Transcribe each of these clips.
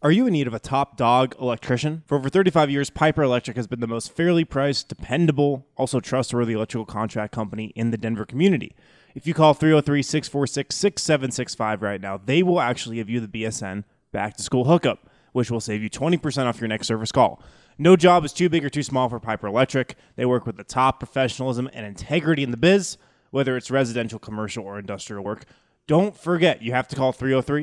Are you in need of a top dog electrician? For over 35 years, Piper Electric has been the most fairly priced, dependable, also trustworthy electrical contract company in the Denver community. If you call 303-646-6765 right now, they will actually give you the BSN back to school hookup, which will save you 20% off your next service call. No job is too big or too small for Piper Electric. They work with the top professionalism and integrity in the biz, whether it's residential, commercial, or industrial work. Don't forget, you have to call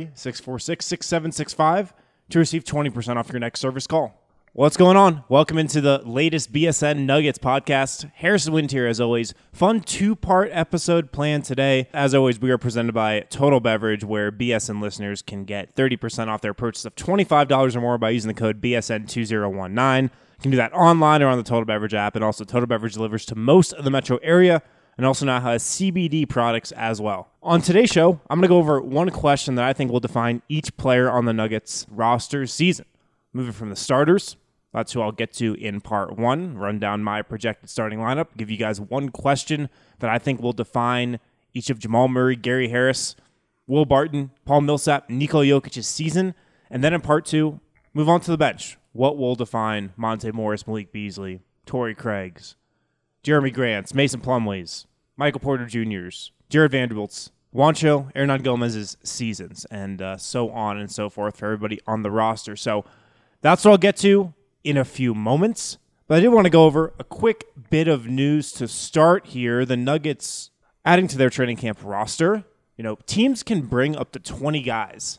303-646-6765 to receive 20% off your next service call. What's going on? Welcome into the latest BSN Nuggets podcast. Harrison Wind here, as always. Fun two-part episode planned today. As always, we are presented by Total Beverage, where BSN listeners can get 30% off their purchase of $25 or more by using the code BSN2019. You can do that online or on the Total Beverage app, and also Total Beverage delivers to most of the metro area, and also now has CBD products as well. On today's show, I'm going to go over one question that I think will define each player on the Nuggets roster season. Moving from the starters, that's who I'll get to in part one, run down my projected starting lineup, give you guys one question that I think will define each of Jamal Murray, Gary Harris, Will Barton, Paul Millsap, Nikola Jokic's season, and then in part two, move on to the bench. What will define Monte Morris, Malik Beasley, Torrey Craig's, Jeremy Grant's, Mason Plumlee's, Michael Porter Jr.'s, Jared Vanderbilt's, Juancho, Hernan Gomez's seasons, and so on and so forth for everybody on the roster. So that's what I'll get to in a few moments. But I did want to go over a quick bit of news to start here. The Nuggets adding to their training camp roster. You know, teams can bring up to 20 guys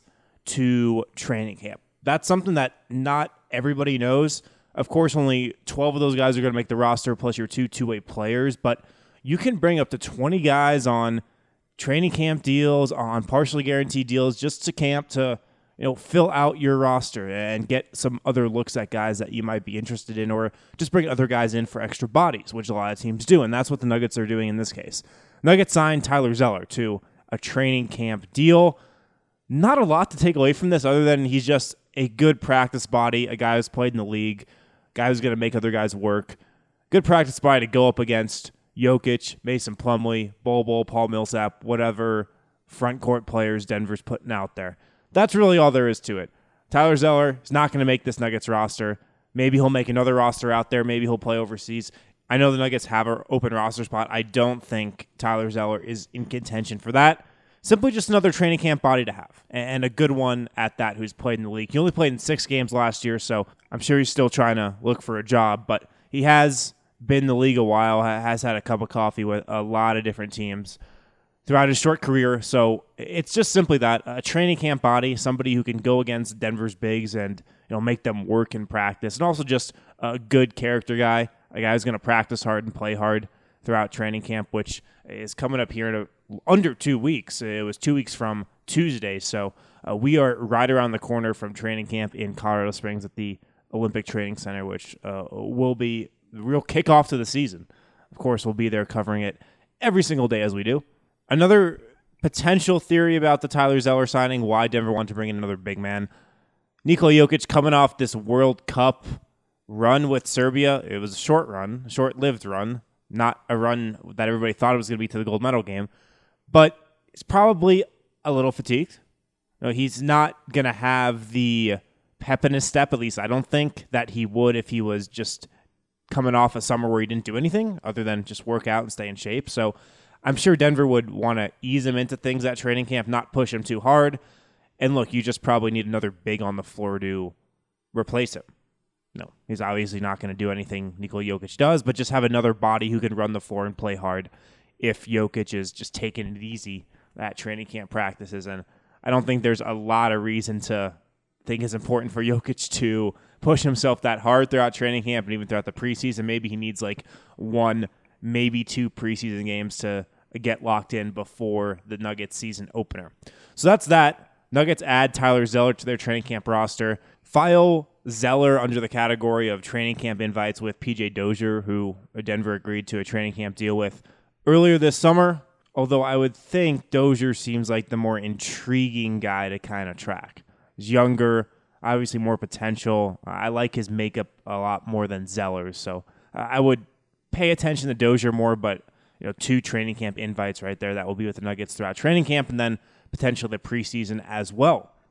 to training camp. That's something that not everybody knows. Of course, only 12 of those guys are going to make the roster, plus your two two-way players. But you can bring up to 20 guys on training camp deals, on partially guaranteed deals, just to camp to, you know, fill out your roster and get some other looks at guys that you might be interested in, or just bring other guys in for extra bodies, which a lot of teams do, and that's what the Nuggets are doing in this case. Nuggets signed Tyler Zeller to a training camp deal. Not a lot to take away from this other than he's just a good practice body, a guy who's played in the league, a guy who's going to make other guys work. Good practice body to go up against Jokic, Mason Plumlee, Bol, Paul Millsap, whatever front court players Denver's putting out there. That's really all there is to it. Tyler Zeller is not going to make this Nuggets roster. Maybe he'll make another roster out there. Maybe he'll play overseas. I know the Nuggets have an open roster spot. I don't think Tyler Zeller is in contention for that. Simply just another training camp body to have, and a good one at that who's played in the league. He only played in 6 games last year, so I'm sure he's still trying to look for a job, but he has been in the league a while, has had a cup of coffee with a lot of different teams throughout his short career. So it's just simply that, a training camp body, somebody who can go against Denver's bigs and, you know, make them work in practice, and also just a good character guy, a guy who's going to practice hard and play hard throughout training camp, which is coming up here in under 2 weeks. It was 2 weeks from Tuesday, so we are right around the corner from training camp in Colorado Springs at the Olympic Training Center, which will be the real kickoff to the season. Of course, we'll be there covering it every single day as we do. Another potential theory about the Tyler Zeller signing, why Denver wanted to bring in another big man. Nikola Jokic coming off this World Cup run with Serbia. It was a short run, short-lived run, not a run that everybody thought it was going to be to the gold medal game. But he's probably a little fatigued. You know, he's not going to have the pep in his step, at least I don't think, that he would if he was just coming off a summer where he didn't do anything other than just work out and stay in shape. So I'm sure Denver would want to ease him into things at training camp, not push him too hard. And look, you just probably need another big on the floor to replace him. No, he's obviously not going to do anything Nikola Jokic does, but just have another body who can run the floor and play hard if Jokic is just taking it easy at training camp practices. And I don't think there's a lot of reason to think it's important for Jokic to push himself that hard throughout training camp and even throughout the preseason. Maybe he needs like 1, maybe 2 preseason games to get locked in before the Nuggets season opener. So that's that. Nuggets add Tyler Zeller to their training camp roster. File Zeller under the category of training camp invites with PJ Dozier, who Denver agreed to a training camp deal with earlier this summer, although I would think Dozier seems like the more intriguing guy to kind of track. He's younger, obviously more potential. I like his makeup a lot more than Zeller's, so I would pay attention to Dozier more, but 2 training camp invites right there that will be with the Nuggets throughout training camp and then potentially the preseason as well.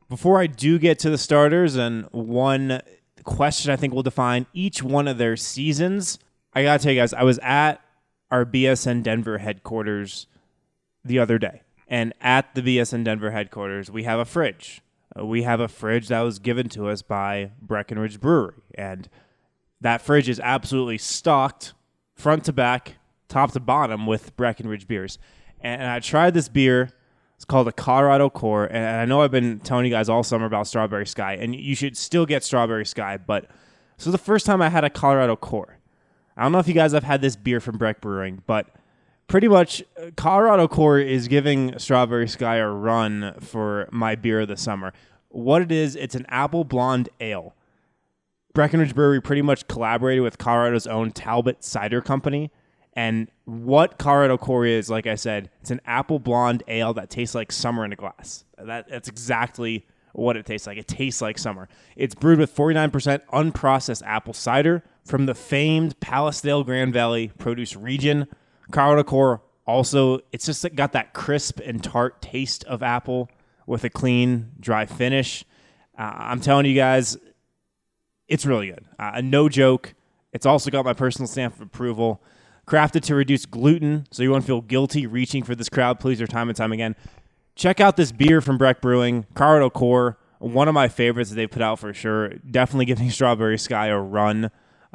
Before I do get to the starters and one question I think will define each one of their seasons, I got to tell you guys, I was at our BSN Denver headquarters the other day. And at the BSN Denver headquarters, we have a fridge. We have a fridge that was given to us by Breckenridge Brewery. And that fridge is absolutely stocked front to back, top to bottom with Breckenridge beers. And I tried this beer. It's called a Colorado Core. And I know I've been telling you guys all summer about Strawberry Sky. And you should still get Strawberry Sky. But this was the first time I had a Colorado Core. I don't know if you guys have had this beer from Breck Brewing, but pretty much Colorado Core is giving Strawberry Sky a run for my beer of the summer. What it is, it's an apple blonde ale. Breckenridge Brewery pretty much collaborated with Colorado's own Talbot Cider Company. And what Colorado Core is, like I said, it's an apple blonde ale that tastes like summer in a glass. That's exactly what it tastes like. It tastes like summer. It's brewed with 49% unprocessed apple cider from the famed Palisdale Grand Valley produce region. Colorado Core also, it's just got that crisp and tart taste of apple with a clean, dry finish. I'm telling you guys, it's really good. No joke. It's also got my personal stamp of approval. Crafted to reduce gluten, so you won't feel guilty reaching for this crowd pleaser time and time again. Check out this beer from Breck Brewing, Colorado Core, one of my favorites that they've put out for sure. Definitely giving Strawberry Sky a run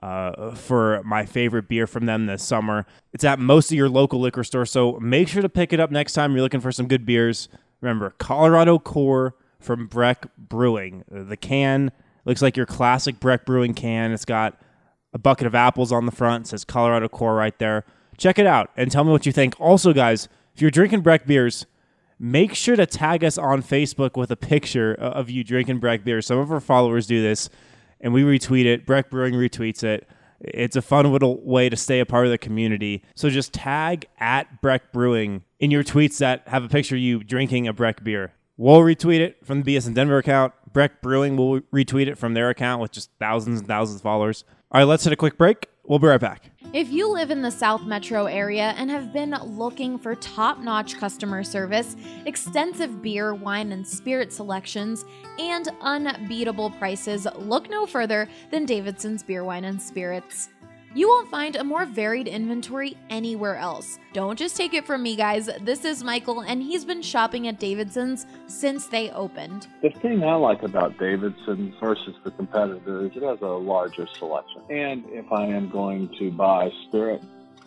for my favorite beer from them this summer. It's at most of your local liquor store, so make sure to pick it up next time you're looking for some good beers. Remember, Colorado Core from Breck Brewing. The can looks like your classic Breck Brewing can. It's got a bucket of apples on the front. It says Colorado Core right there. Check it out and tell me what you think. Also, guys, if you're drinking Breck beers, make sure to tag us on Facebook with a picture of you drinking Breck beers. Some of our followers do this, and we retweet it. Breck Brewing retweets it. It's a fun little way to stay a part of the community. So just tag at Breck Brewing in your tweets that have a picture of you drinking a Breck beer. We'll retweet it from the BSN Denver account. Breck Brewing will retweet it from their account with just thousands and thousands of followers. All right, let's hit a quick break. We'll be right back. If you live in the South Metro area and have been looking for top-notch customer service, extensive beer, wine, and spirit selections, and unbeatable prices, look no further than Davidson's Beer, Wine, and Spirits. You won't find a more varied inventory anywhere else. Don't just take it from me, guys. This is Michael, and he's been shopping at Davidson's since they opened. The thing I like about Davidson's versus the competitor is it has a larger selection. And if I am going to buy spirit,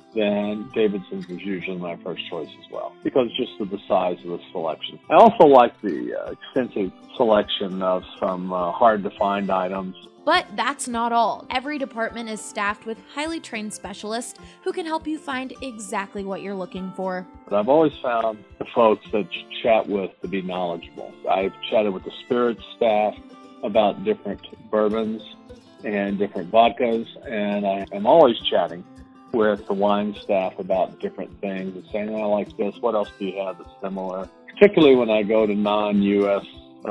then Davidson's is usually my first choice as well, because just of the size of the selection. I also like the extensive selection of some hard-to-find items. But that's not all. Every department is staffed with highly trained specialists who can help you find exactly what you're looking for. But I've always found the folks that you chat with to be knowledgeable. I've chatted with the spirits staff about different bourbons and different vodkas, and I am always chatting with the wine staff about different things and saying, I like this, what else do you have that's similar? Particularly when I go to non-U.S.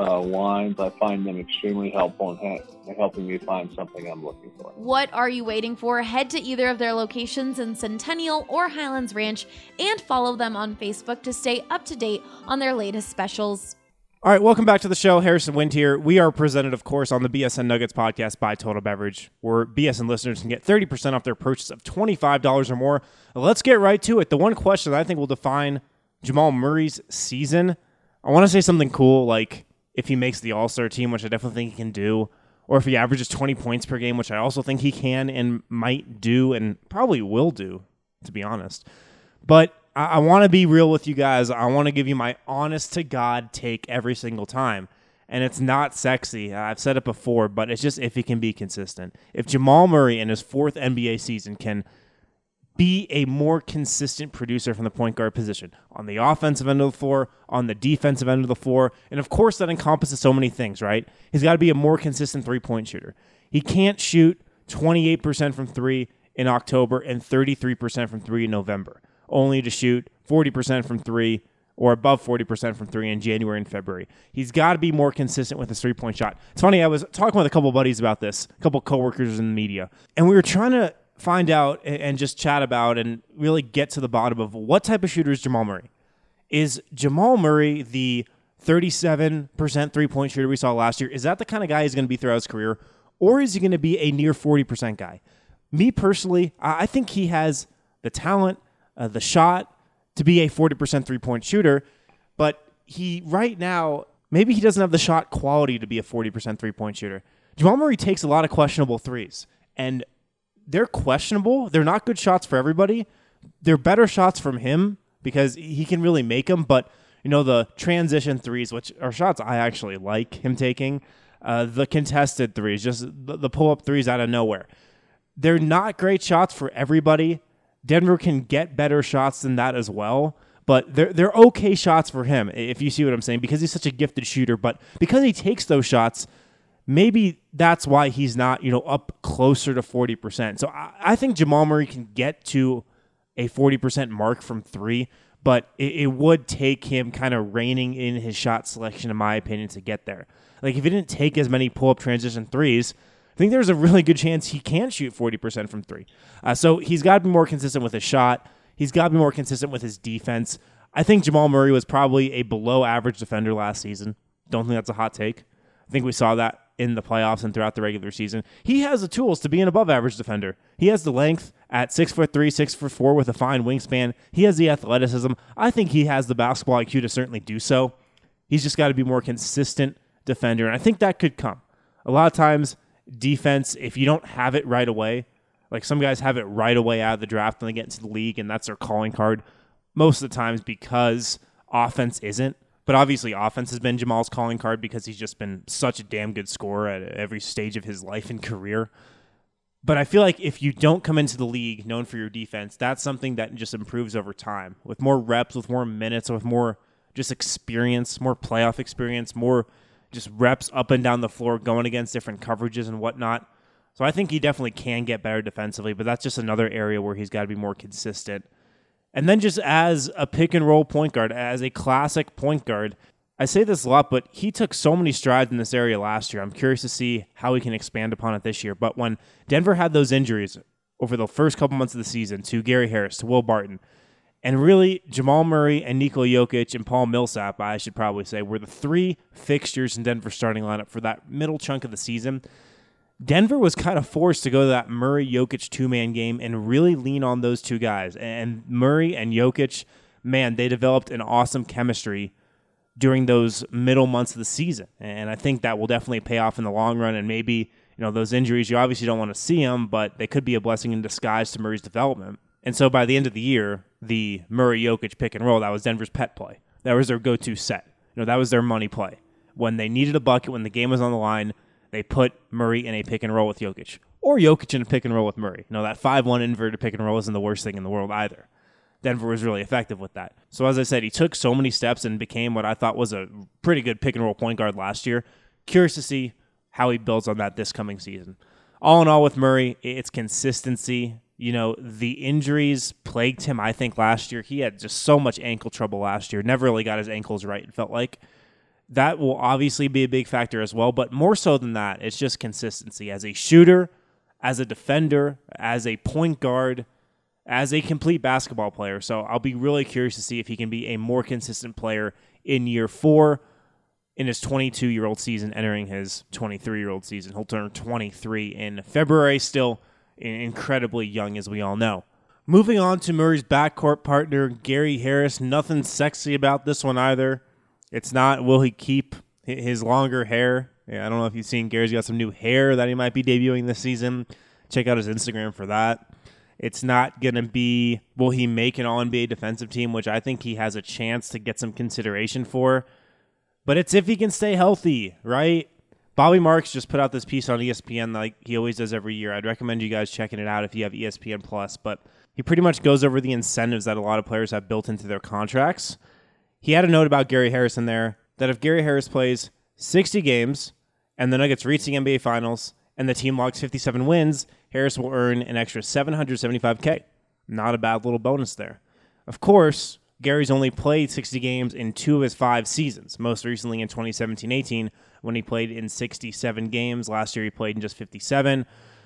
wines, I find them extremely helpful in helping me find something I'm looking for. What are you waiting for? Head to either of their locations in Centennial or Highlands Ranch and follow them on Facebook to stay up to date on their latest specials. All right, welcome back to the show. Harrison Wind here. We are presented, of course, on the BSN Nuggets podcast by Total Beverage, where BSN listeners can get 30% off their purchase of $25 or more. Let's get right to it. The one question that I think will define Jamal Murray's season, I want to say something cool, like if he makes the All-Star team, which I definitely think he can do, or if he averages 20 points per game, which I also think he can and might do and probably will do, to be honest. But I want to be real with you guys. I want to give you my honest-to-God take every single time. And it's not sexy. I've said it before, but it's just if he can be consistent. If Jamal Murray in his fourth NBA season can be a more consistent producer from the point guard position on the offensive end of the floor, on the defensive end of the floor, and of course that encompasses so many things, right? He's got to be a more consistent three-point shooter. He can't shoot 28% from three in October and 33% from three in November, only to shoot 40% from three or above 40% from three in January and February. He's got to be more consistent with his three-point shot. It's funny, I was talking with a couple buddies about this, a couple coworkers in the media, and we were trying to find out and just chat about and really get to the bottom of what type of shooter is Jamal Murray. Is Jamal Murray the 37% three-point shooter we saw last year, is that the kind of guy he's going to be throughout his career? Or is he going to be a near 40% guy? Me personally, I think he has the talent, the shot to be a 40% three-point shooter, but he right now, maybe he doesn't have the shot quality to be a 40% three-point shooter. Jamal Murray takes a lot of questionable threes, and they're questionable. They're not good shots for everybody. They're better shots from him because he can really make them, but the transition threes, which are shots I actually like him taking, the contested threes, just the pull-up threes out of nowhere. They're not great shots for everybody. Denver can get better shots than that as well, but they're okay shots for him, if you see what I'm saying, because he's such a gifted shooter. But because he takes those shots, maybe that's why he's not, up closer to 40%. So I think Jamal Murray can get to a 40% mark from three, but it would take him kind of reining in his shot selection, in my opinion, to get there. Like, if he didn't take as many pull-up transition threes, I think there's a really good chance he can shoot 40% from three. So he's got to be more consistent with his shot. He's got to be more consistent with his defense. I think Jamal Murray was probably a below-average defender last season. Don't think that's a hot take. I think we saw that in the playoffs and throughout the regular season. He has the tools to be an above-average defender. He has the length at 6'3", 6'4", with a fine wingspan. He has the athleticism. I think he has the basketball IQ to certainly do so. He's just got to be more consistent defender, and I think that could come. A lot of times, defense, if you don't have it right away, like some guys have it right away out of the draft when they get into the league, and that's their calling card, most of the times because offense isn't. But obviously offense has been Jamal's calling card because he's just been such a damn good scorer at every stage of his life and career. But I feel like if you don't come into the league known for your defense, that's something that just improves over time. With more reps, with more minutes, with more just experience, more playoff experience, more just reps up and down the floor going against different coverages and whatnot. So I think he definitely can get better defensively, but that's just another area where he's got to be more consistent. And then just as a pick-and-roll point guard, as a classic point guard, I say this a lot, but he took so many strides in this area last year. I'm curious to see how he can expand upon it this year. But when Denver had those injuries over the first couple months of the season to Gary Harris, to Will Barton, and really Jamal Murray and Nikola Jokic and Paul Millsap, I should probably say, were the three fixtures in Denver's starting lineup for that middle chunk of the season, Denver was kind of forced to go to that Murray-Jokic two-man game and really lean on those two guys. And Murray and Jokic, man, they developed an awesome chemistry during those middle months of the season. And I think that will definitely pay off in the long run. And maybe, those injuries, you obviously don't want to see them, but they could be a blessing in disguise to Murray's development. And so by the end of the year, the Murray-Jokic pick and roll, that was Denver's pet play. That was their go-to set. That was their money play. When they needed a bucket, when the game was on the line, they put Murray in a pick and roll with Jokic, or Jokic in a pick and roll with Murray. That 5-1 inverted pick and roll isn't the worst thing in the world either. Denver was really effective with that. So as I said, he took so many steps and became what I thought was a pretty good pick and roll point guard last year. Curious to see how he builds on that this coming season. All in all with Murray, it's consistency. The injuries plagued him, I think, last year. He had just so much ankle trouble last year. Never really got his ankles right, it felt like. That will obviously be a big factor as well, but more so than that, it's just consistency. As a shooter, as a defender, as a point guard, as a complete basketball player. So I'll be really curious to see if he can be a more consistent player in year 4 in his 22-year-old season, entering his 23-year-old season. He'll turn 23 in February, still incredibly young, as we all know. Moving on to Murray's backcourt partner, Gary Harris. Nothing sexy about this one either. It's not, will he keep his longer hair? Yeah, I don't know if you've seen Gary's got some new hair that he might be debuting this season. Check out his Instagram for that. It's not going to be, will he make an All-NBA defensive team, which I think he has a chance to get some consideration for. But it's if he can stay healthy, right? Bobby Marks just put out this piece on ESPN like he always does every year. I'd recommend you guys checking it out if you have ESPN+. But he pretty much goes over the incentives that a lot of players have built into their contracts. He had a note about Gary Harris in there that if Gary Harris plays 60 games and the Nuggets reach the NBA Finals and the team logs 57 wins, Harris will earn an extra $775K. Not a bad little bonus there. Of course, Gary's only played 60 games in 2 of his 5 seasons, most recently in 2017-18 when he played in 67 games. Last year he played in just 57.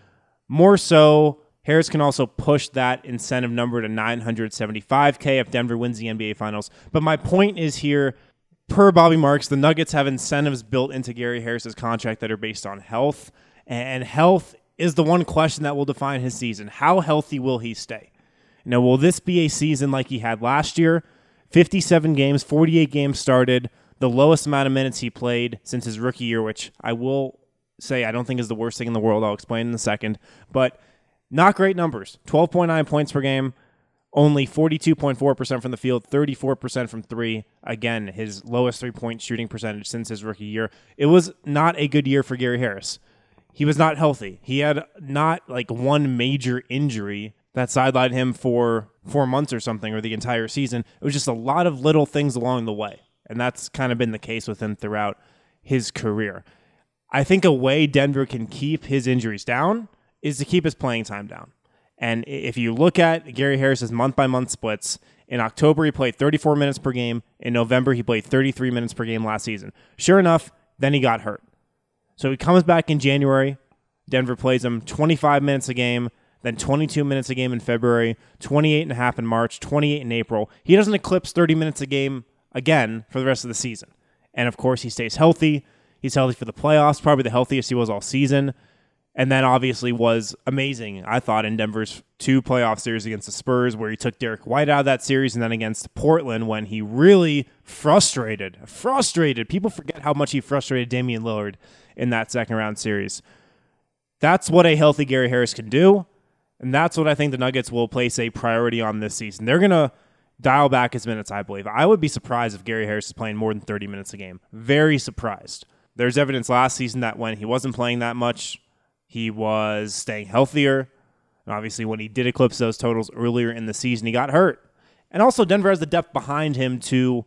More so, Harris can also push that incentive number to $975K if Denver wins the NBA Finals. But my point is here, per Bobby Marks, the Nuggets have incentives built into Gary Harris's contract that are based on health, and health is the one question that will define his season. How healthy will he stay? Will this be a season like he had last year? 57 games, 48 games started, the lowest amount of minutes he played since his rookie year, which I will say I don't think is the worst thing in the world. I'll explain in a second. But not great numbers. 12.9 points per game, only 42.4% from the field, 34% from three. Again, his lowest three-point shooting percentage since his rookie year. It was not a good year for Gary Harris. He was not healthy. He had not like one major injury that sidelined him for 4 months or something, or the entire season. It was just a lot of little things along the way. And that's kind of been the case with him throughout his career. I think a way Denver can keep his injuries down is to keep his playing time down. And if you look at Gary Harris's month-by-month splits, in October he played 34 minutes per game. In November he played 33 minutes per game last season. Sure enough, then he got hurt. So he comes back in January. Denver plays him 25 minutes a game, then 22 minutes a game in February, 28.5 in March, 28 in April. He doesn't eclipse 30 minutes a game again for the rest of the season. And of course, he stays healthy. He's healthy for the playoffs, probably the healthiest he was all season. And then obviously was amazing, I thought, in Denver's 2 playoff series against the Spurs, where he took Derek White out of that series, and then against Portland when he really frustrated. People forget how much he frustrated Damian Lillard in that second round series. That's what a healthy Gary Harris can do, and that's what I think the Nuggets will place a priority on this season. They're going to dial back his minutes, I believe. I would be surprised if Gary Harris is playing more than 30 minutes a game. Very surprised. There's evidence last season that when he wasn't playing that much, he was staying healthier. And obviously, when he did eclipse those totals earlier in the season, he got hurt. And also, Denver has the depth behind him to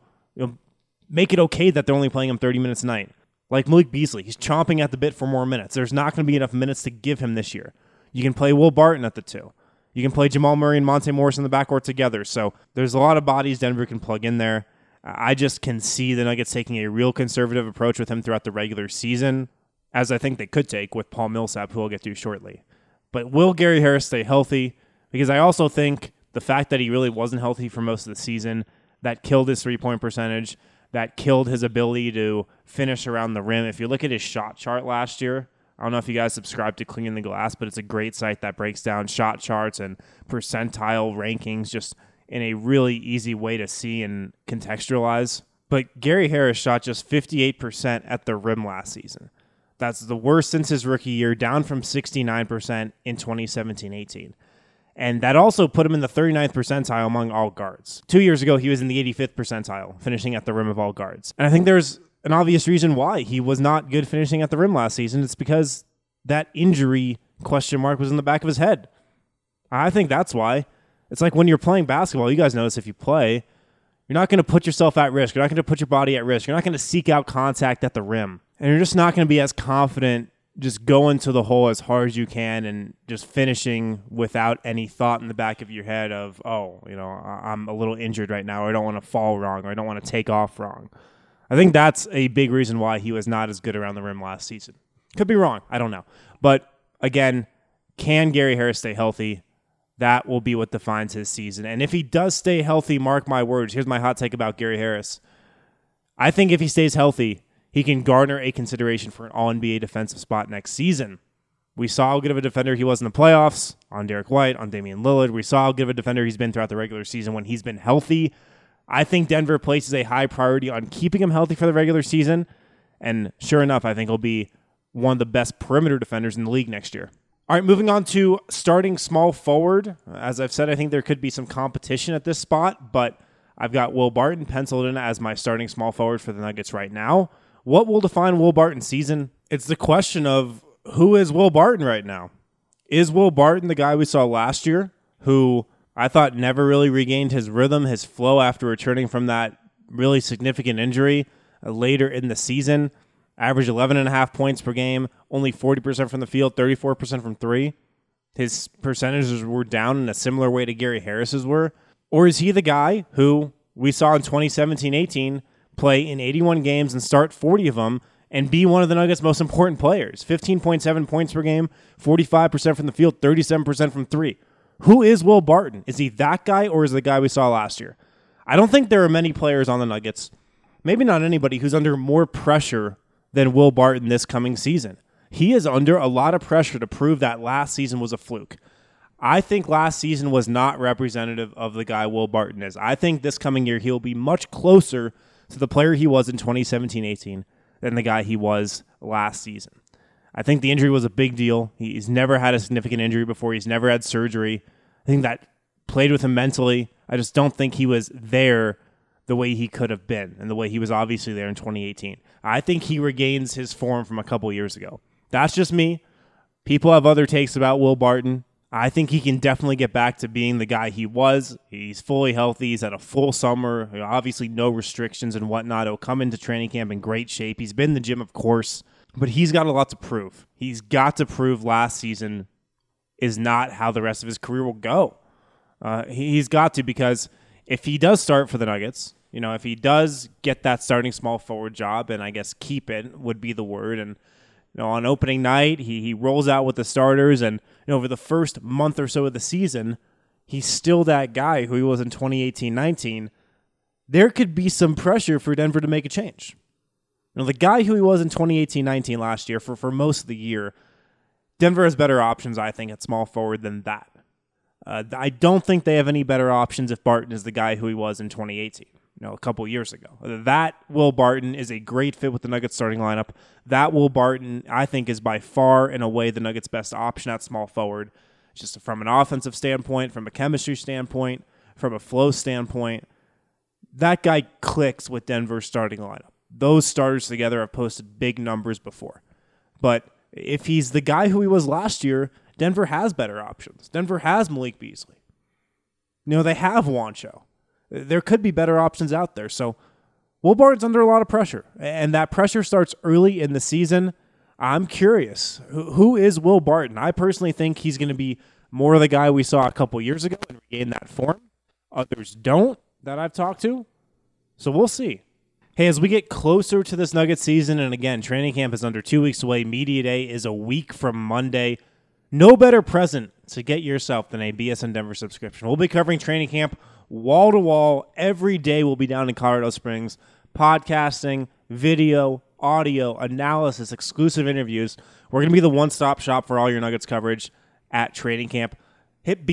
make it okay that they're only playing him 30 minutes a night. Like Malik Beasley, he's chomping at the bit for more minutes. There's not going to be enough minutes to give him this year. You can play Will Barton at the 2. You can play Jamal Murray and Monte Morris in the backcourt together. So there's a lot of bodies Denver can plug in there. I just can see the Nuggets taking a real conservative approach with him throughout the regular season, as I think they could take with Paul Millsap, who we'll get to shortly. But will Gary Harris stay healthy? Because I also think the fact that he really wasn't healthy for most of the season, that killed his three-point percentage, that killed his ability to finish around the rim. If you look at his shot chart last year, I don't know if you guys subscribe to Cleaning the Glass, but it's a great site that breaks down shot charts and percentile rankings just in a really easy way to see and contextualize. But Gary Harris shot just 58% at the rim last season. That's the worst since his rookie year, down from 69% in 2017-18. And that also put him in the 39th percentile among all guards. 2 years ago, he was in the 85th percentile, finishing at the rim of all guards. And I think there's an obvious reason why he was not good finishing at the rim last season. It's because that injury question mark was in the back of his head. I think that's why. It's like when you're playing basketball, you guys notice if you play, you're not going to put yourself at risk. You're not going to put your body at risk. You're not going to seek out contact at the rim. And you're just not going to be as confident just going to the hole as hard as you can and just finishing without any thought in the back of your head of, I'm a little injured right now, or I don't want to fall wrong, or I don't want to take off wrong. I think that's a big reason why he was not as good around the rim last season. Could be wrong. I don't know. But again, can Gary Harris stay healthy? That will be what defines his season. And if he does stay healthy, mark my words, here's my hot take about Gary Harris. I think if he stays healthy, he can garner a consideration for an All-NBA defensive spot next season. We saw how good of a defender he was in the playoffs on Derek White, on Damian Lillard. We saw how good of a defender he's been throughout the regular season when he's been healthy. I think Denver places a high priority on keeping him healthy for the regular season. And sure enough, I think he'll be one of the best perimeter defenders in the league next year. All right, moving on to starting small forward. As I've said, I think there could be some competition at this spot, but I've got Will Barton penciled in as my starting small forward for the Nuggets right now. What will define Will Barton's season? It's the question of who is Will Barton right now? Is Will Barton the guy we saw last year who I thought never really regained his rhythm, his flow after returning from that really significant injury later in the season? Averaged 11.5 points per game, only 40% from the field, 34% from three. His percentages were down in a similar way to Gary Harris's were. Or is he the guy who we saw in 2017-18 play in 81 games and start 40 of them and be one of the Nuggets' most important players? 15.7 points per game, 45% from the field, 37% from three. Who is Will Barton? Is he that guy or is he the guy we saw last year? I don't think there are many players on the Nuggets maybe not anybody, who's under more pressure than Will Barton this coming season. He is under a lot of pressure to prove that last season was a fluke. I think last season was not representative of the guy Will Barton is. I think this coming year he'll be much closer to the player he was in 2017-18 than the guy he was last season. I think the injury was a big deal. He's never had a significant injury before. He's never had surgery. I think that played with him mentally. I just don't think he was there the way he could have been and the way he was obviously there in 2018. I think he regains his form from a couple years ago. That's just me. People have other takes about Will Barton. I think he can definitely get back to being the guy he was. He's fully healthy. He's had a full summer. Obviously no restrictions and whatnot. He'll come into training camp in great shape. He's been in the gym, of course, but he's got a lot to prove. He's got to prove last season is not how the rest of his career will go. He's got to, because if he does start for the Nuggets, if he does get that starting small forward job, and I guess keep it would be the word, and on opening night, he rolls out with the starters, and over the first month or so of the season, he's still that guy who he was in 2018-19. There could be some pressure for Denver to make a change. The guy who he was in 2018-19 last year, for most of the year, Denver has better options, I think, at small forward than that. I don't think they have any better options if Barton is the guy who he was in 2018. A couple years ago. That Will Barton is a great fit with the Nuggets starting lineup. That Will Barton, I think, is by far and away the Nuggets' best option at small forward, just from an offensive standpoint, from a chemistry standpoint, from a flow standpoint. That guy clicks with Denver's starting lineup. Those starters together have posted big numbers before. But if he's the guy who he was last year, Denver has better options. Denver has Malik Beasley. They have Juancho. There could be better options out there. So Will Barton's under a lot of pressure, and that pressure starts early in the season. I'm curious, who is Will Barton? I personally think he's going to be more of the guy we saw a couple years ago and regain that form. Others don't that I've talked to. So we'll see. Hey, as we get closer to this Nuggets season, and again, training camp is under 2 weeks away. Media Day is a week from Monday. No better present to get yourself than a BSN Denver subscription. We'll be covering training camp wall to wall. Every day we'll be down in Colorado Springs, podcasting, video, audio, analysis, exclusive interviews. We're going to be the one-stop shop for all your Nuggets coverage at training camp. Hit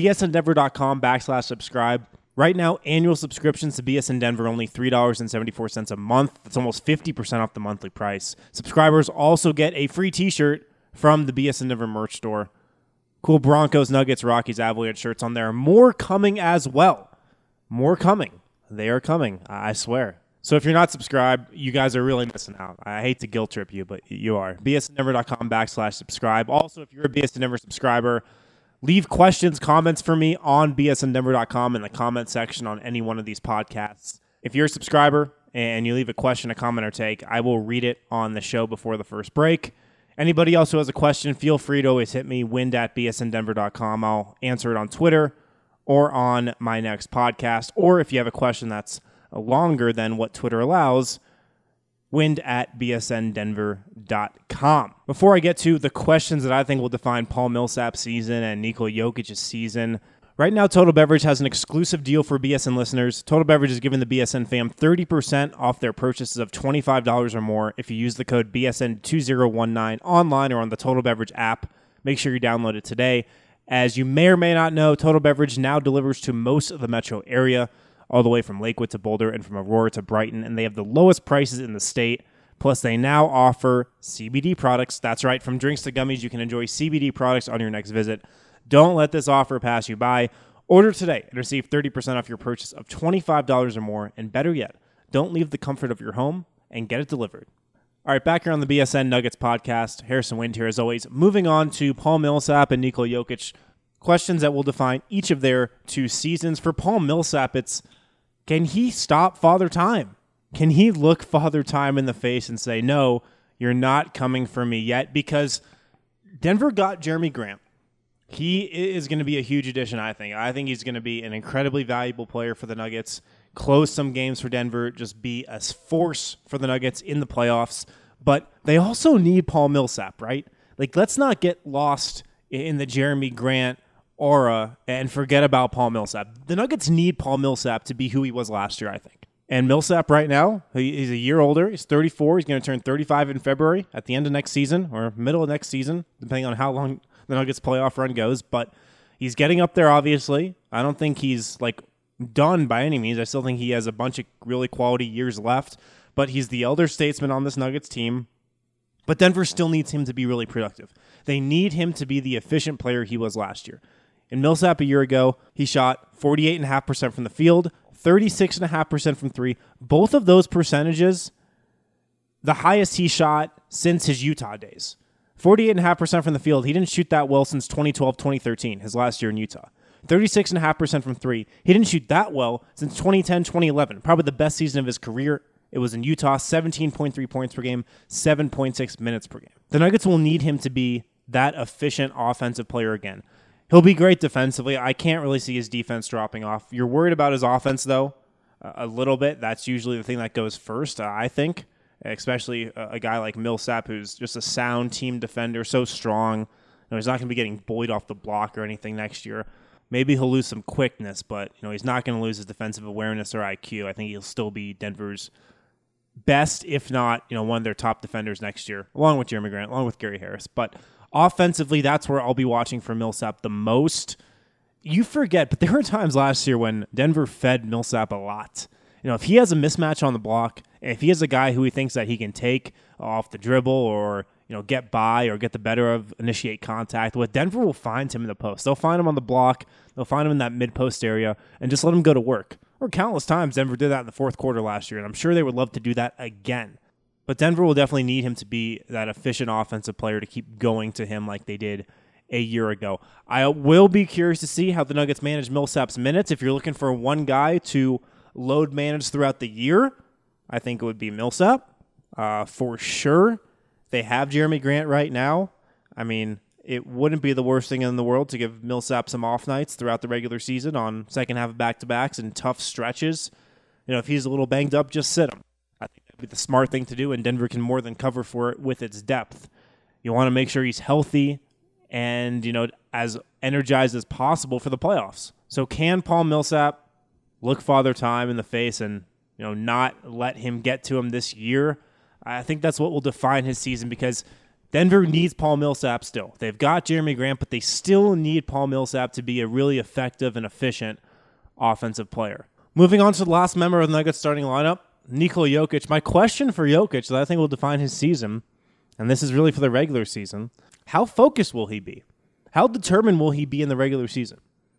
bsndenver.com/subscribe. Right now, annual subscriptions to BSN Denver only $3.74 a month. That's almost 50% off the monthly price. Subscribers also get a free t-shirt from the BSN Denver merch store. Cool Broncos, Nuggets, Rockies, Avalanche shirts on there. More coming as well. More coming. They are coming, I swear. So if you're not subscribed, you guys are really missing out. I hate to guilt trip you, but you are. bsndenver.com/subscribe. Also, if you're a BSN Denver subscriber, leave questions, comments for me on bsndenver.com in the comment section on any one of these podcasts. If you're a subscriber and you leave a question, a comment, or take, I will read it on the show before the first break. Anybody else who has a question, feel free to always hit me, wind@bsndenver.com. I'll answer it on Twitter or on my next podcast. Or if you have a question that's longer than what Twitter allows, wind@bsndenver.com. Before I get to the questions that I think will define Paul Millsap's season and Nikola Jokic's season, right now Total Beverage has an exclusive deal for BSN listeners. Total Beverage is giving the BSN fam 30% off their purchases of $25 or more if you use the code BSN2019 online or on the Total Beverage app. Make sure you download it today. As you may or may not know, Total Beverage now delivers to most of the metro area, all the way from Lakewood to Boulder and from Aurora to Brighton, and they have the lowest prices in the state. Plus, they now offer CBD products. That's right, from drinks to gummies, you can enjoy CBD products on your next visit. Don't let this offer pass you by. Order today and receive 30% off your purchase of $25 or more, and better yet, don't leave the comfort of your home and get it delivered. All right, back here on the BSN Nuggets podcast, Harrison Wind here as always. Moving on to Paul Millsap and Nikola Jokic. Questions that will define each of their two seasons. For Paul Millsap, it's, can he stop Father Time? Can he look Father Time in the face and say, no, you're not coming for me yet? Because Denver got Jeremy Grant. He is going to be a huge addition, I think. I think he's going to be an incredibly valuable player for the Nuggets. Close some games for Denver, just be a force for the Nuggets in the playoffs. But they also need Paul Millsap, right? Like, let's not get lost in the Jeremy Grant aura and forget about Paul Millsap. The Nuggets need Paul Millsap to be who he was last year, I think. And Millsap right now, he's a year older. He's 34. He's going to turn 35 in February at the end of next season or middle of next season, depending on how long the Nuggets playoff run goes. But he's getting up there, obviously. I don't think he's done by any means. I still think he has a bunch of really quality years left. But he's the elder statesman on this Nuggets team. But Denver still needs him to be really productive. They need him to be the efficient player he was last year. In Millsap a year ago, he shot 48.5% from the field, 36.5% from three. Both of those percentages, the highest he shot since his Utah days. 48.5% from the field. He didn't shoot that well since 2012, 2013, his last year in Utah. 36.5% from three. He didn't shoot that well since 2010, 2011. Probably the best season of his career. It was in Utah, 17.3 points per game, 7.6 minutes per game. The Nuggets will need him to be that efficient offensive player again. He'll be great defensively. I can't really see his defense dropping off. You're worried about his offense, though, a little bit. That's usually the thing that goes first, I think, especially a guy like Millsap, who's just a sound team defender, so strong. He's not going to be getting bullied off the block or anything next year. Maybe he'll lose some quickness, but he's not going to lose his defensive awareness or IQ. I think he'll still be Denver's best, if not, one of their top defenders next year, along with Jeremy Grant, along with Gary Harris. But offensively, that's where I'll be watching for Millsap the most. You forget, but there were times last year when Denver fed Millsap a lot. If he has a mismatch on the block, if he has a guy who he thinks that he can take off the dribble or get by or get the better of, initiate contact, Denver will find him in the post. They'll find him on the block. They'll find him in that mid-post area and just let him go to work. Or countless times Denver did that in the fourth quarter last year, and I'm sure they would love to do that again. But Denver will definitely need him to be that efficient offensive player to keep going to him like they did a year ago. I will be curious to see how the Nuggets manage Millsap's minutes. If you're looking for one guy to load manage throughout the year, I think it would be Millsap for sure. They have Jeremy Grant right now. I mean, it wouldn't be the worst thing in the world to give Millsap some off nights throughout the regular season on second half of back-to-backs and tough stretches. If he's a little banged up, just sit him. I think that would be the smart thing to do, and Denver can more than cover for it with its depth. You want to make sure he's healthy and, as energized as possible for the playoffs. So can Paul Millsap look Father Time in the face and, not let him get to him this year? I think that's what will define his season because Denver needs Paul Millsap still. They've got Jeremy Grant, but they still need Paul Millsap to be a really effective and efficient offensive player. Moving on to the last member of the Nuggets starting lineup, Nikola Jokic. My question for Jokic that I think will define his season, and this is really for the regular season, how focused will he be? How determined will he be in the regular season?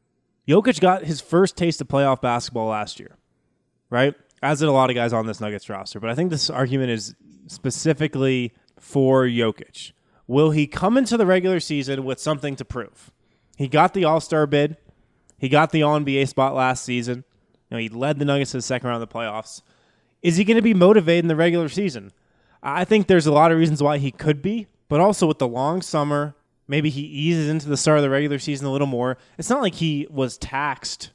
Jokic got his first taste of playoff basketball last year, right? As did a lot of guys on this Nuggets roster. But I think this argument is specifically for Jokic. Will he come into the regular season with something to prove? He got the All-Star bid. He got the All-NBA spot last season. He led the Nuggets to the second round of the playoffs. Is he going to be motivated in the regular season? I think there's a lot of reasons why he could be, but also with the long summer, maybe he eases into the start of the regular season a little more. It's not like he was taxed,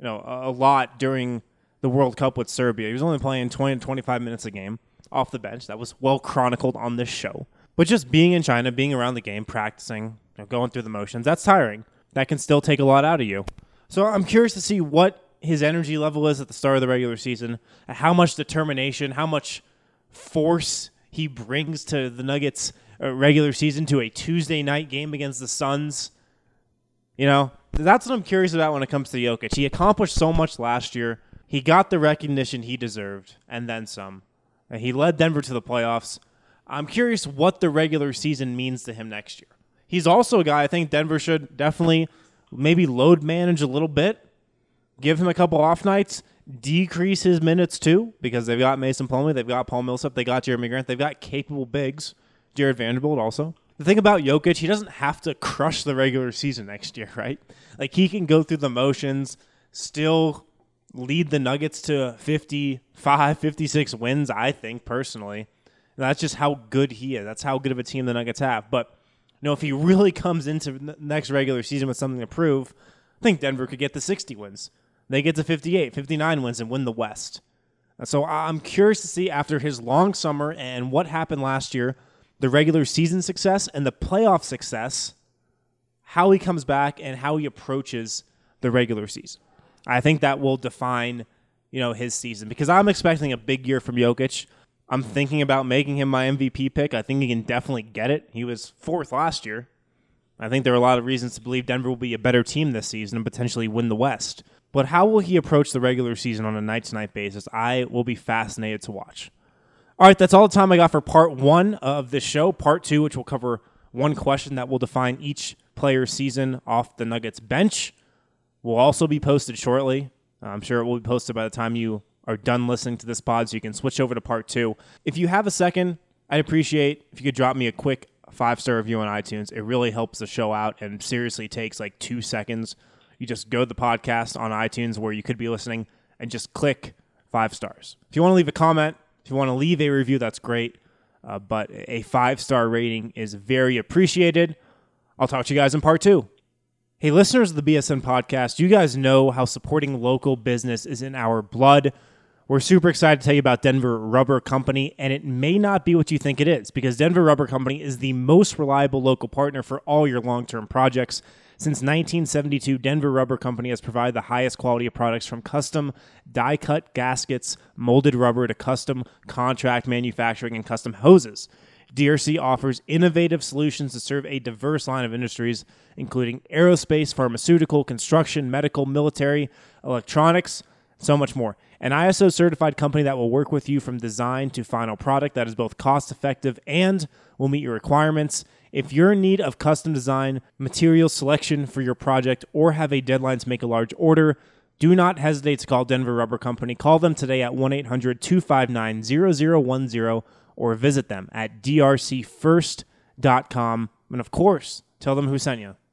a lot during the World Cup with Serbia. He was only playing 20 to 25 minutes a game off the bench. That was well chronicled on this show. But just being in China, being around the game, practicing, going through the motions, that's tiring. That can still take a lot out of you. So I'm curious to see what his energy level is at the start of the regular season, how much determination, how much force he brings to the Nuggets regular season, to a Tuesday night game against the Suns. That's what I'm curious about when it comes to Jokic. He accomplished so much last year. He got the recognition he deserved, and then some. He led Denver to the playoffs. I'm curious what the regular season means to him next year. He's also a guy I think Denver should definitely maybe load manage a little bit, give him a couple off nights, decrease his minutes too, because they've got Mason Plumlee, they've got Paul Millsap, they got Jeremy Grant, they've got capable bigs, Jared Vanderbilt also. The thing about Jokic, he doesn't have to crush the regular season next year, right? He can go through the motions, still lead the Nuggets to 55, 56 wins, I think, personally. And that's just how good he is. That's how good of a team the Nuggets have. But, if he really comes into the next regular season with something to prove, I think Denver could get to 60 wins. They get to 58, 59 wins and win the West. So I'm curious to see after his long summer and what happened last year, the regular season success and the playoff success, how he comes back and how he approaches the regular season. I think that will define his season, because I'm expecting a big year from Jokic. I'm thinking about making him my MVP pick. I think he can definitely get it. He was 4th last year. I think there are a lot of reasons to believe Denver will be a better team this season and potentially win the West. But how will he approach the regular season on a night-to-night basis? I will be fascinated to watch. All right, that's all the time I got for part 1 of this show. Part 2, which will cover one question that will define each player's season off the Nuggets bench, will also be posted shortly. I'm sure it will be posted by the time you are done listening to this pod, so you can switch over to part 2. If you have a second, I'd appreciate if you could drop me a quick 5-star review on iTunes. It really helps the show out and seriously takes like 2 seconds. You just go to the podcast on iTunes where you could be listening and just click 5 stars. If you want to leave a comment, if you want to leave a review, that's great. But a 5-star rating is very appreciated. I'll talk to you guys in part 2. Hey, listeners of the BSN podcast, you guys know how supporting local business is in our blood. We're super excited to tell you about Denver Rubber Company, and it may not be what you think it is, because Denver Rubber Company is the most reliable local partner for all your long-term projects. Since 1972, Denver Rubber Company has provided the highest quality of products, from custom die-cut gaskets, molded rubber, to custom contract manufacturing and custom hoses. DRC offers innovative solutions to serve a diverse line of industries, including aerospace, pharmaceutical, construction, medical, military, electronics, so much more. An ISO-certified company that will work with you from design to final product that is both cost-effective and will meet your requirements. If you're in need of custom design, material selection for your project, or have a deadline to make a large order, do not hesitate to call Denver Rubber Company. Call them today at 1-800-259-0010 or visit them at drcfirst.com. And of course, tell them who sent you.